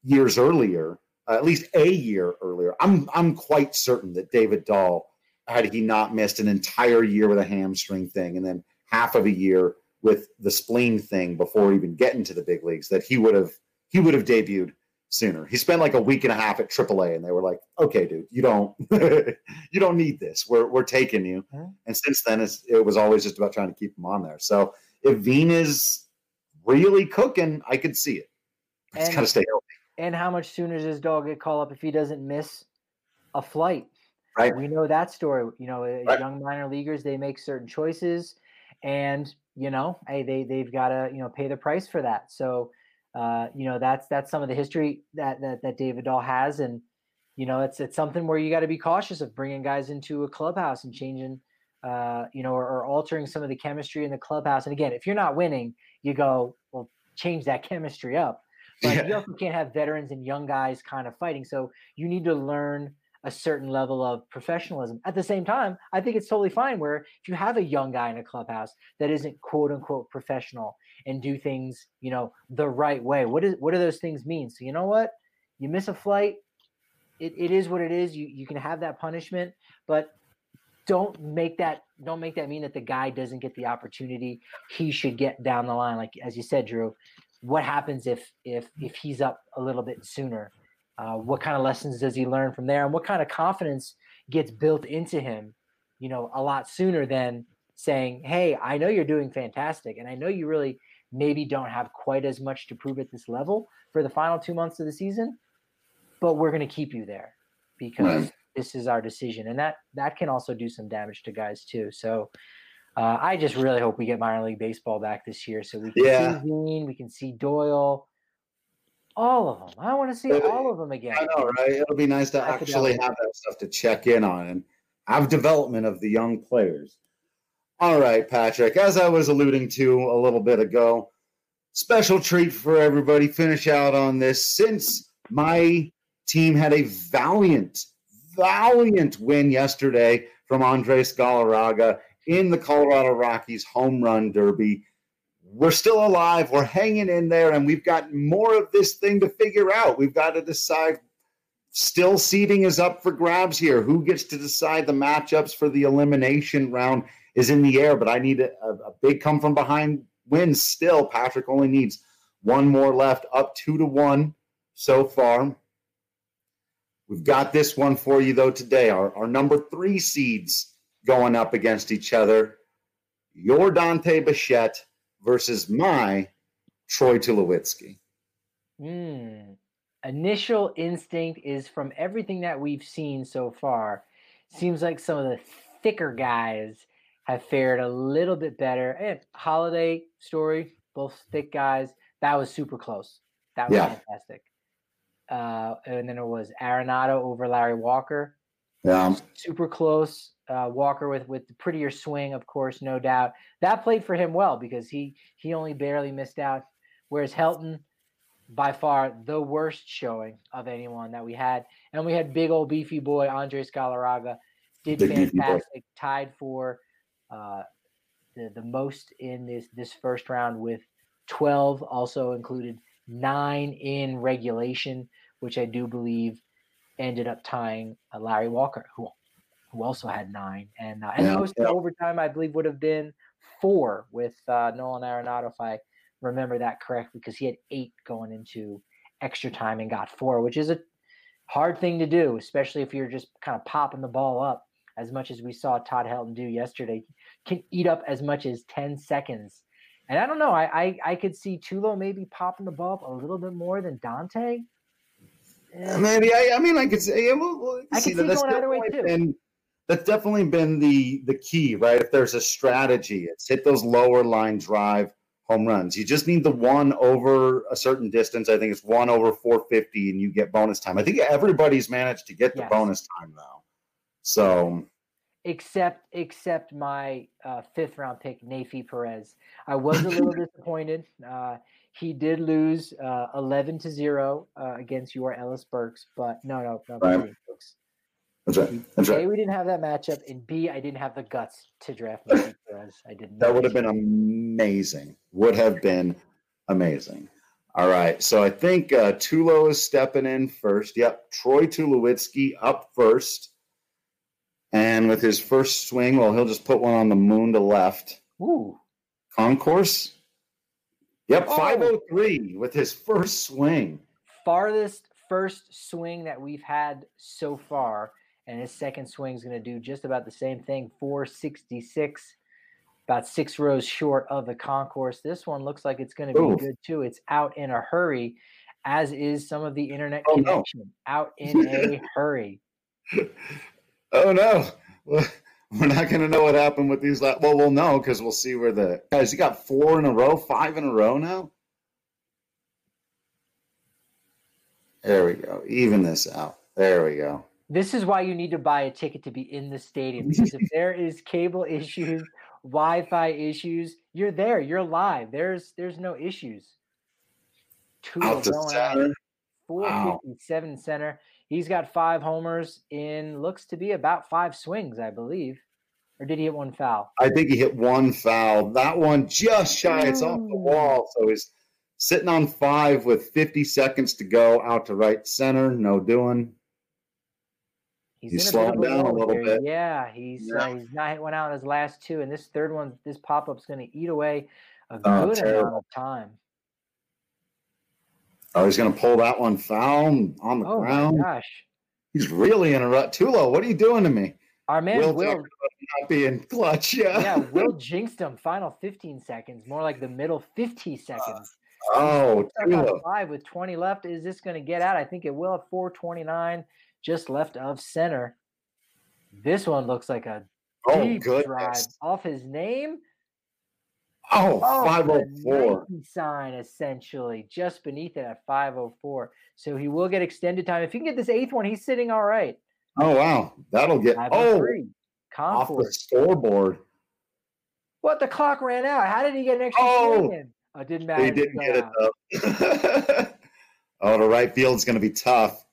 years earlier, at least a year earlier, I'm quite certain that David Dahl, had he not missed an entire year with a hamstring thing and then half of a year with the spleen thing before even getting to the big leagues, that he would have debuted sooner. He spent like a week and a half at AAA, and they were like, "Okay, dude, you don't you don't need this. We're taking you." Mm-hmm. And since then, it was always just about trying to keep him on there. So if Veen is really cooking, I could see it. He's got to stay healthy. And how much sooner does Dog get called up if he doesn't miss a flight? Right. We know that story. Right. Young minor leaguers, they make certain choices, and hey, they've got to pay the price for that. So that's some of the history that David Dahl has, and it's something where you got to be cautious of bringing guys into a clubhouse and changing, or altering some of the chemistry in the clubhouse. And again, if you're not winning, you go, well, change that chemistry up. But you also can't have veterans and young guys kind of fighting. So you need to learn a certain level of professionalism. At the same time, I think it's totally fine where if you have a young guy in a clubhouse that isn't quote unquote professional and do things, the right way, what do those things mean? So you know what? You miss a flight, it is what it is. You can have that punishment, but don't make that mean that the guy doesn't get the opportunity he should get down the line. Like as you said, Drew, what happens if he's up a little bit sooner? What kind of lessons does he learn from there, and what kind of confidence gets built into him, a lot sooner than saying, hey, I know you're doing fantastic, and I know you really maybe don't have quite as much to prove at this level for the final 2 months of the season, but we're going to keep you there because this is our decision. And that can also do some damage to guys too. So I just really hope we get minor league baseball back this year so we can see Veen, we can see Doyle, all of them. I want to see all of them again. I know, right? It'll be nice to actually have that stuff to check in on and have development of the young players. All right, Patrick, as I was alluding to a little bit ago, special treat for everybody. Finish out on this. Since my team had a valiant win yesterday from Andres Galarraga in the Colorado Rockies Home Run Derby, we're still alive. We're hanging in there, and we've got more of this thing to figure out. We've got to decide. Still, seeding is up for grabs here. Who gets to decide the matchups for the elimination round is in the air, but I need a big come-from-behind win still. Patrick only needs one more left, up 2-1 so far. We've got this one for you, though, today. Our number 3 seeds going up against each other. Your Dante Bichette versus my Troy Tulowitzki. Initial instinct is from everything that we've seen so far. Seems like some of the thicker guys have fared a little bit better. And Holiday, Story, both thick guys. That was super close. That was fantastic. And then it was Arenado over Larry Walker. Yeah. Super close. Walker with the prettier swing, of course, no doubt. That played for him well because he only barely missed out. Whereas Helton, by far the worst showing of anyone that we had. And we had big old beefy boy Andres Galarraga, did fantastic, tied for the most in this first round with 12, also included 9 in regulation, which I do believe ended up tying Larry Walker, who also had 9. And the most overtime, I believe, would have been 4 with Nolan Arenado, if I remember that correctly, because he had 8 going into extra time and got 4, which is a hard thing to do, especially if you're just kind of popping the ball up as much as we saw Todd Helton do yesterday. Can eat up as much as 10 seconds. And I don't know, I could see Tulo maybe popping the ball up a little bit more than Dante. Maybe. I could say. I could see going either way too. That's definitely been the key, right? If there's a strategy, it's hit those lower line drive home runs. You just need the one over a certain distance. I think it's 1 over 450, and you get bonus time. I think everybody's managed to get the bonus time now. So, except my 5th round pick, Neifi Perez. I was a little disappointed. He did lose 11-0 against your Ellis Burks, but no, right. That's right. A, we didn't have that matchup, and B, I didn't have the guts to draft Neifi Perez. I didn't. That would have been amazing. All right, so I think Tulo is stepping in first. Yep, Troy Tulowitzki up first. And with his first swing, well, he'll just put one on the moon to left. Ooh. Concourse? Yep, Oh. 503 with his first swing. Farthest first swing that we've had so far. And his second swing is going to do just about the same thing, 466, about 6 rows short of the concourse. This one looks like it's going to be good, too. It's out in a hurry, as is some of the internet connection. Out in a hurry. Oh, no. We're not going to know what happened with these. Well, we'll know because we'll see where the – guys, you got 4 in a row, 5 in a row now? There we go. Even this out. There we go. This is why you need to buy a ticket to be in the stadium, because if there is cable issues, Wi-Fi issues, you're there. You're live. There's no issues. Out to center. 457 center. He's got 5 homers in looks to be about 5 swings, I believe. Or did he hit 1 foul? I think he hit 1 foul. That one just shy. It's off the wall. So he's sitting on 5 with 50 seconds to go. Out to right center. No doing. He's slowing down a little bit. Yeah, he's not hit one out in his last 2. And this third one, this pop-up's going to eat away a good amount of time. Oh, he's going to pull that one foul on the ground. Oh, my gosh. He's really in a rut. Tulo, what are you doing to me? Our man Will not being clutch, Yeah, Will jinxed him. Final 15 seconds, more like the middle 50 seconds. Tulo. 5 with 20 left. Is this going to get out? I think it will at 429, just left of center. This one looks like a deep drive off his name. 504. Sign essentially just beneath it at 504. So he will get extended time. If he can get this 8th one, he's sitting all right. Oh wow, that'll get off the scoreboard. What? The clock ran out. How did he get an extra swing in? Oh, it didn't matter. He didn't get it though. The right field's going to be tough.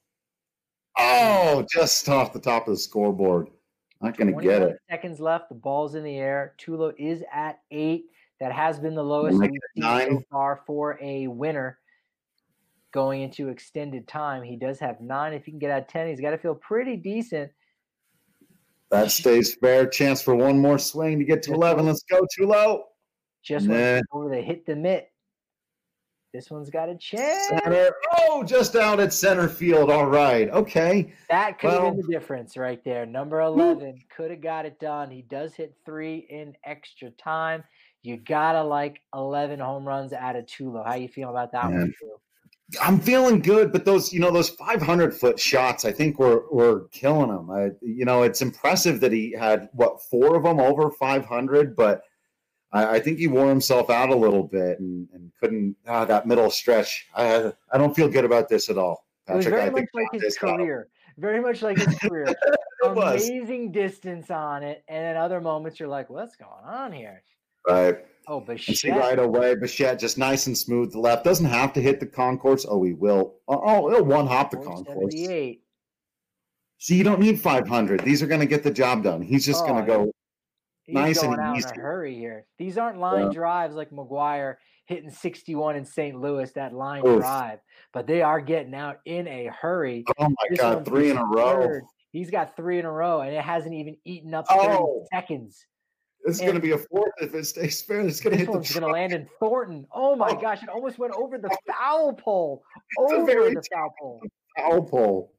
Just off the top of the scoreboard. Not going to get it. Seconds left. The ball's in the air. Tulo is at 8. That has been the lowest we've seen so far for a winner going into extended time. He does have 9. If he can get out 10, he's got to feel pretty decent. That stays fair. Chance for one more swing to get to 11. Let's go, Tulo. Just went over the hit the mitt. This one's got a chance. Center. Just out at center field. All right. Okay. That could have been the difference right there. Number 11 could have got it done. He does hit 3 in extra time. You gotta like 11 home runs out of Tulo. How you feel about that one, too? I'm feeling good, but those 500-foot shots, I think were killing him. It's impressive that he had 4 of them over 500, but I think he wore himself out a little bit and couldn't. That middle stretch, I don't feel good about this at all, Patrick. It was very much like his career. Very much like his career. Amazing distance on it, and then other moments you're like, what's going on here? Right. Oh, Bichette. Right away, Bichette just nice and smooth to left. Doesn't have to hit the concourse. He will. He'll one-hop the concourse. See, you don't need 500. These are going to get the job done. He's just going to go nice and easy. In a hurry here. These aren't line drives like McGuire hitting 61 in St. Louis, that line drive. But they are getting out in a hurry. Oh, my God, 3 in a row. He's got 3 in a row, and it hasn't even eaten up 30 seconds. This is going to be a 4th if it stays fair. It's going to hit the truck. This one's going to land in Thornton. Oh, my gosh. It almost went over the foul pole. Over the foul pole. Foul pole.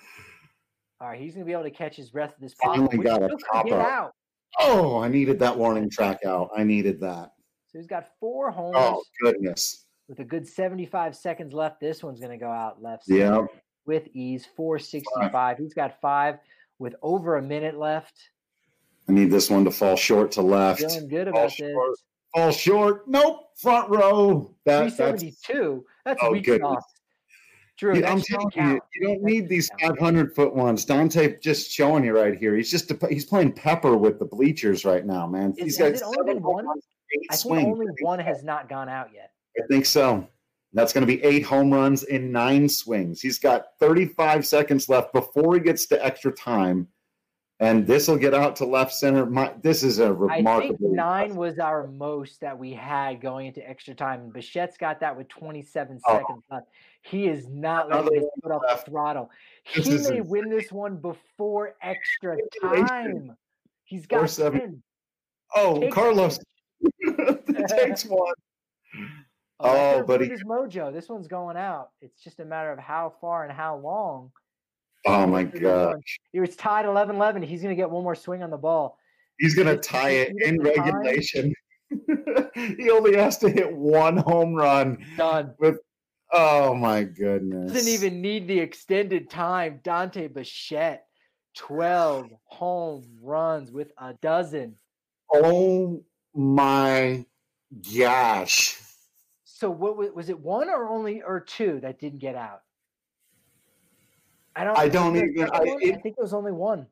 All right, he's going to be able to catch his breath at this pop-up. Finally got a pop-up. I needed that warning track out. I needed that. So he's got 4 homers. Oh, goodness. With a good 75 seconds left, this one's going to go out left. Yeah. With ease, 465. He's got 5 with over a minute left. I need this one to fall short to left. Feeling good about this. Fall short. Nope. Front row. 372. That's a weak sauce. Drew, I'm telling you, you don't need these 500-foot ones. Dante just showing you right here. He's playing pepper with the bleachers right now, man. Has it only been one? I think only one has not gone out yet. I think so. That's going to be 8 home runs in 9 swings. He's got 35 seconds left before he gets to extra time. And this will get out to left center. This is a remarkable. I think 9 was our most that we had going into extra time. And Bichette's got that with 27 seconds left. He is not letting this put up the throttle. He may win this one before extra time. He's got 10. Oh, Carlos takes one. Oh, buddy. His mojo. This one's going out. It's just a matter of how far and how long. Oh, my gosh. It was tied 11-11. He's going to get one more swing on the ball. He's going to tie it in regulation. He only has to hit one home run. Done. Oh, my goodness. Doesn't even need the extended time. Dante Bichette, 12 home runs with a dozen. Oh, my gosh. So what was it, 1 or 2 that didn't get out? I think it was only 1.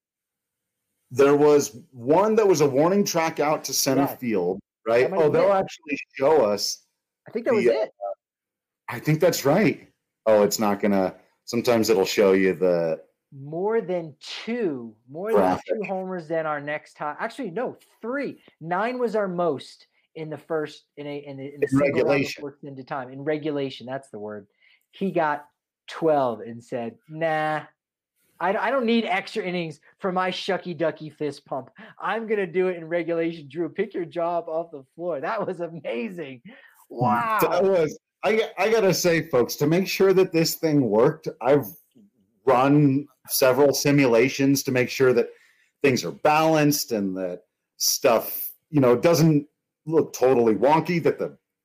There was one that was a warning track out to center field, right? Oh, they'll actually show us. I think that was it. I think that's right. Oh, it's not going to – sometimes it'll show you the – more than two homers than our next time. Actually, no, 3. 9 was our most in the first – in the regulation. Into time. In regulation, that's the word. He got 12 and said, nah, I don't need extra innings for my shucky ducky fist pump. I'm going to do it in regulation. Drew, pick your job off the floor. That was amazing. Wow. That was – I got to say, folks, to make sure that this thing worked, I've run several simulations to make sure that things are balanced and that stuff, doesn't look totally wonky, that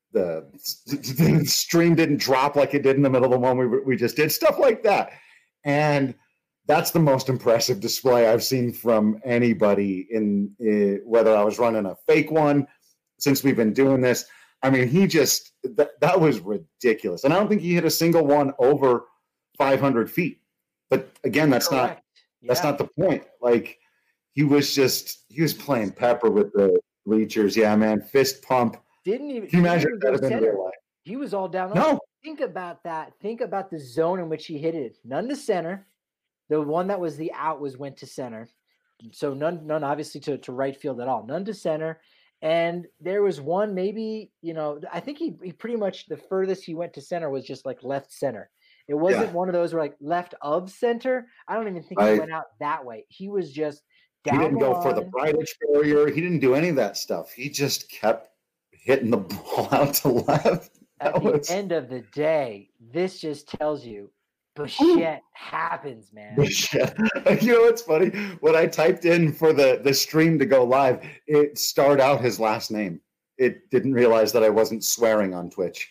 the stream didn't drop like it did in the middle of the one we just did, stuff like that. And that's the most impressive display I've seen from anybody in whether I was running a fake one since we've been doing this. I mean, he just that was ridiculous. And I don't think he hit a single one over 500 feet. But again, that's not the point. Like he was playing pepper with the bleachers. Yeah, man, fist pump. Didn't even. Can you imagine that had been real life? He was all down. No. Think about that. Think about the zone in which he hit it. None to center. The one that was the out went to center. So none obviously to right field at all. None to center. And there was one maybe, I think he pretty much the furthest he went to center was just like left center. It wasn't one of those where like left of center. I don't even think he went out that way. He was just down. He didn't go for the Bridich barrier. He didn't do any of that stuff. He just kept hitting the ball out to left. At the end of the day, this just tells you Bichette happens, man. Bichette. You know what's funny? When I typed in for the stream to go live, it starred out his last name. It didn't realize that I wasn't swearing on Twitch.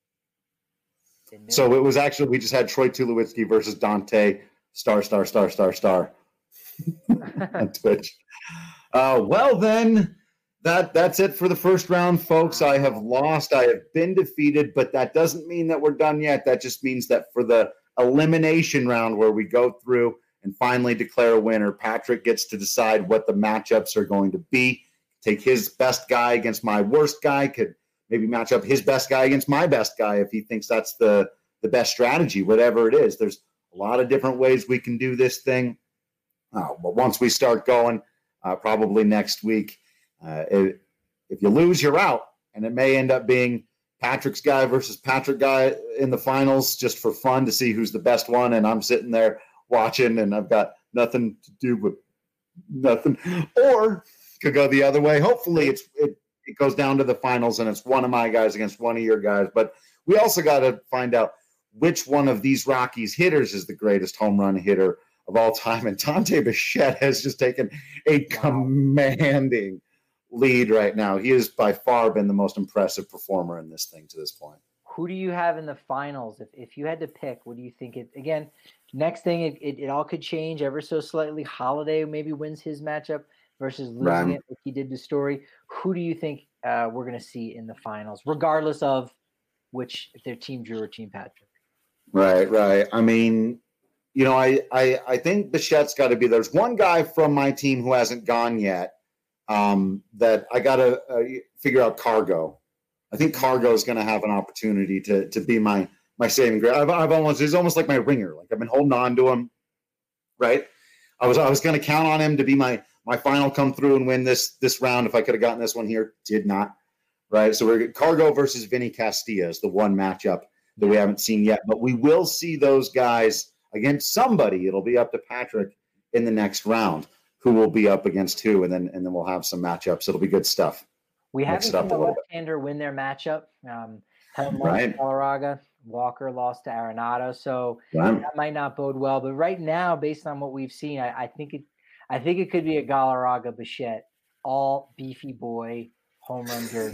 So it was actually, we just had Troy Tulowitzki versus Dante *** on Twitch. Well, then, that's it for the first round, folks. I have lost. I have been defeated, but that doesn't mean that we're done yet. That just means that for the elimination round where we go through and finally declare a winner, Patrick gets to decide what the matchups are going to be. Take his best guy against my worst guy, could maybe match up his best guy against my best guy if he thinks that's the best strategy, whatever it is. There's a lot of different ways we can do this thing. But once we start going, probably next week, if you lose, you're out. And it may end up being Patrick's guy versus Patrick guy in the finals just for fun to see who's the best one. And I'm sitting there watching and I've got nothing to do but nothing. Or could go the other way. Hopefully it goes down to the finals and it's one of my guys against one of your guys. But we also got to find out which one of these Rockies hitters is the greatest home run hitter of all time. And Dante Bichette has just taken a commanding lead right now. He has by far been the most impressive performer in this thing to this point. Who do you have in the finals? If you had to pick, what do you think? Again, next thing, it all could change ever so slightly. Holiday maybe wins his matchup versus losing it like he did to Story. Who do you think we're going to see in the finals, regardless of if they're Team Drew or Team Patrick? Right. I mean, I think Bichette's got to be. There's one guy from my team who hasn't gone yet that I got to figure out. Cargo. I think Cargo is going to have an opportunity to be my saving grace. He's almost like my ringer. Like I've been holding on to him, right? I was going to count on him to be my final come through and win this round if I could have gotten this one here. Did not. Right. So we're Cargo versus Vinny Castilla is the one matchup that we haven't seen yet. But we will see those guys against somebody. It'll be up to Patrick in the next round who will be up against who, and then we'll have some matchups. It'll be good stuff. We haven't seen a left-hander win their matchup. Helm lost to Galarraga. Walker lost to Arenado, so that might not bode well. But right now, based on what we've seen, I think it could be a Galarraga Bichette all beefy boy home run derby.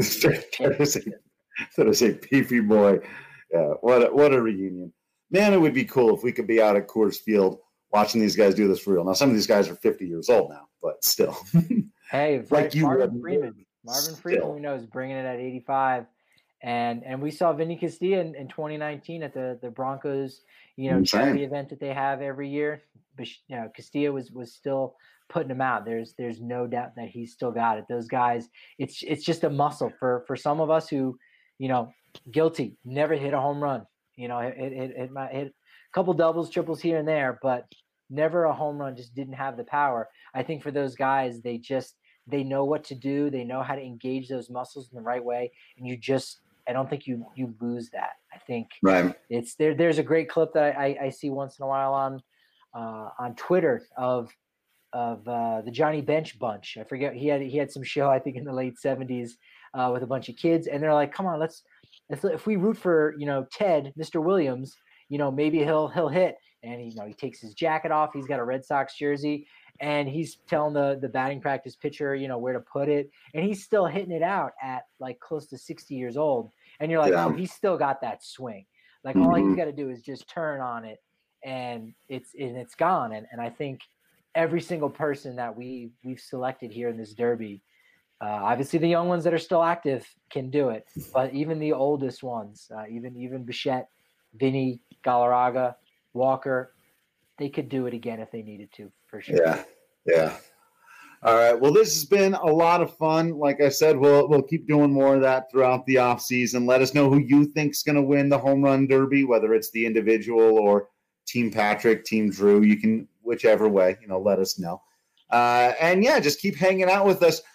That is a beefy boy. Yeah, what a reunion, man! It would be cool if we could be out at Coors Field watching these guys do this for real. Now, some of these guys are 50 years old now, but still. Hey, like Marvin Freeman, we know, is bringing it at 85. And we saw Vinny Castilla in 2019 at the Broncos, charity event that they have every year. But Castilla was still putting him out. There's no doubt that he's still got it. Those guys, it's just a muscle for some of us who, guilty, never hit a home run. Hit a couple doubles, triples here and there, but never a home run. Just didn't have the power. I think for those guys, they know what to do. They know how to engage those muscles in the right way, and I don't think you lose that. I think it's there. There's a great clip that I see once in a while on Twitter of the Johnny Bench bunch. I forget, he had some show, I think in the late 70s with a bunch of kids, and they're like, come on, let's if we root for Ted, Mr. Williams, maybe he'll hit. And he takes his jacket off. He's got a Red Sox jersey, and he's telling the batting practice pitcher, where to put it. And he's still hitting it out at like close to 60 years old. And you're like, oh, he's still got that swing. Like all he's got to do is just turn on it, and it's gone. And I think every single person that we've selected here in this derby, obviously the young ones that are still active can do it, but even the oldest ones, even Bichette, Vinny, Galarraga, Walker, they could do it again if they needed to, for sure. Yeah. All right. Well, this has been a lot of fun. Like I said, we'll keep doing more of that throughout the offseason. Let us know who you think's going to win the home run derby, whether it's the individual or Team Patrick, Team Drew. You can, whichever way, let us know. And yeah, just keep hanging out with us.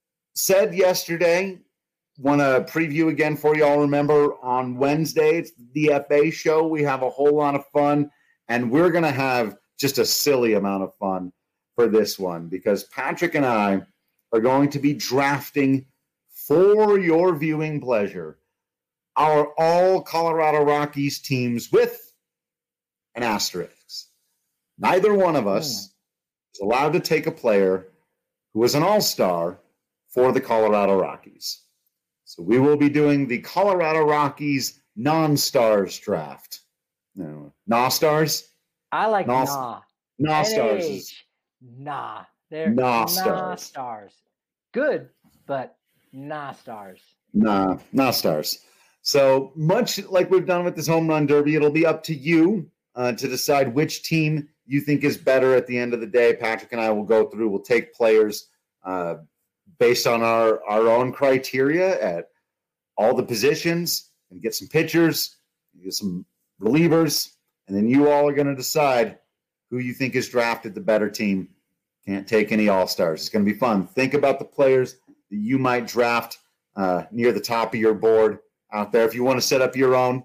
Said yesterday, want to preview again for you all. Remember, on Wednesday, it's the DFA show. We have a whole lot of fun, and we're going to have just a silly amount of fun for this one because Patrick and I are going to be drafting for your viewing pleasure our all Colorado Rockies teams with an asterisk. Neither one of us is allowed to take a player who is an all-star for the Colorado Rockies. So we will be doing the Colorado Rockies non-stars draft. No, nah-stars? I like nah. Nah-stars. Nah. They're nah-stars. Good, but nah-stars. Nah-stars. So much like we've done with this home run derby, it'll be up to you to decide which team you think is better at the end of the day. Patrick and I will go through, we'll take players based on our own criteria at all the positions and get some pitchers, get some relievers, and then you all are going to decide who you think is drafted the better team. Can't take any all-stars. It's going to be fun. Think about the players that you might draft near the top of your board out there. If you want to set up your own,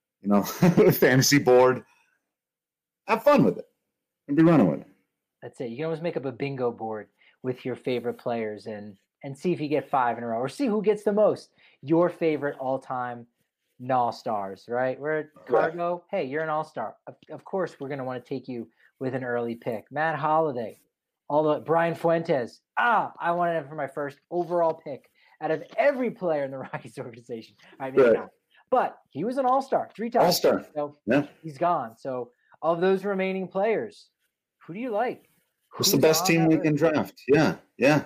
fantasy board, have fun with it and be running with it. That's it. You can always make up a bingo board with your favorite players and see if you get 5 in a row or see who gets the most. Your favorite all-time all-stars, right? We're at Cargo. Hey, you're an all-star. Of course, we're going to want to take you with an early pick. Matt Holliday, Brian Fuentes. I wanted him for my first overall pick out of every player in the Rockies organization. I mean, not. But he was an all-star 3 times. All-star. So he's gone. So of those remaining players, who do you like? Who's the best team we can draft? Yeah.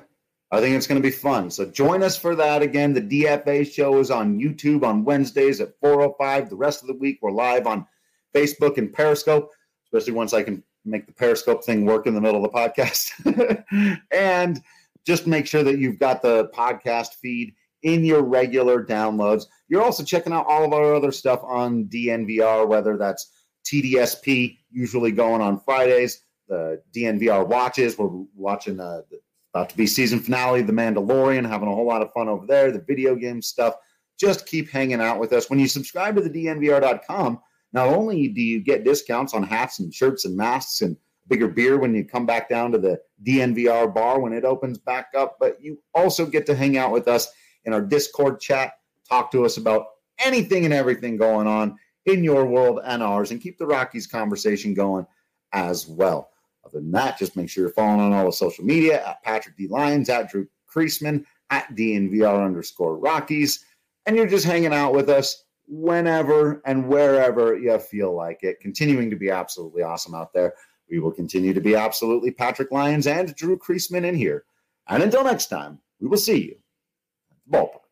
I think it's going to be fun. So join us for that again. The DFA show is on YouTube on Wednesdays at 4:05. The rest of the week, we're live on Facebook and Periscope, especially once I can make the Periscope thing work in the middle of the podcast. And just make sure that you've got the podcast feed in your regular downloads. You're also checking out all of our other stuff on DNVR, whether that's TDSP, usually going on Fridays, the DNVR watches. We're watching about to be season finale of The Mandalorian, having a whole lot of fun over there, the video game stuff. Just keep hanging out with us. When you subscribe to the DNVR.com, not only do you get discounts on hats and shirts and masks and bigger beer when you come back down to the DNVR bar when it opens back up, but you also get to hang out with us in our Discord chat, talk to us about anything and everything going on in your world and ours, and keep the Rockies conversation going as well. Other than that, just make sure you're following on all the social media at Patrick D. Lyons, at Drew Creasman, at DNVR_Rockies, and you're just hanging out with us whenever and wherever you feel like it. Continuing to be absolutely awesome out there. We will continue to be absolutely Patrick Lyons and Drew Creasman in here. And until next time, we will see you at the ballpark.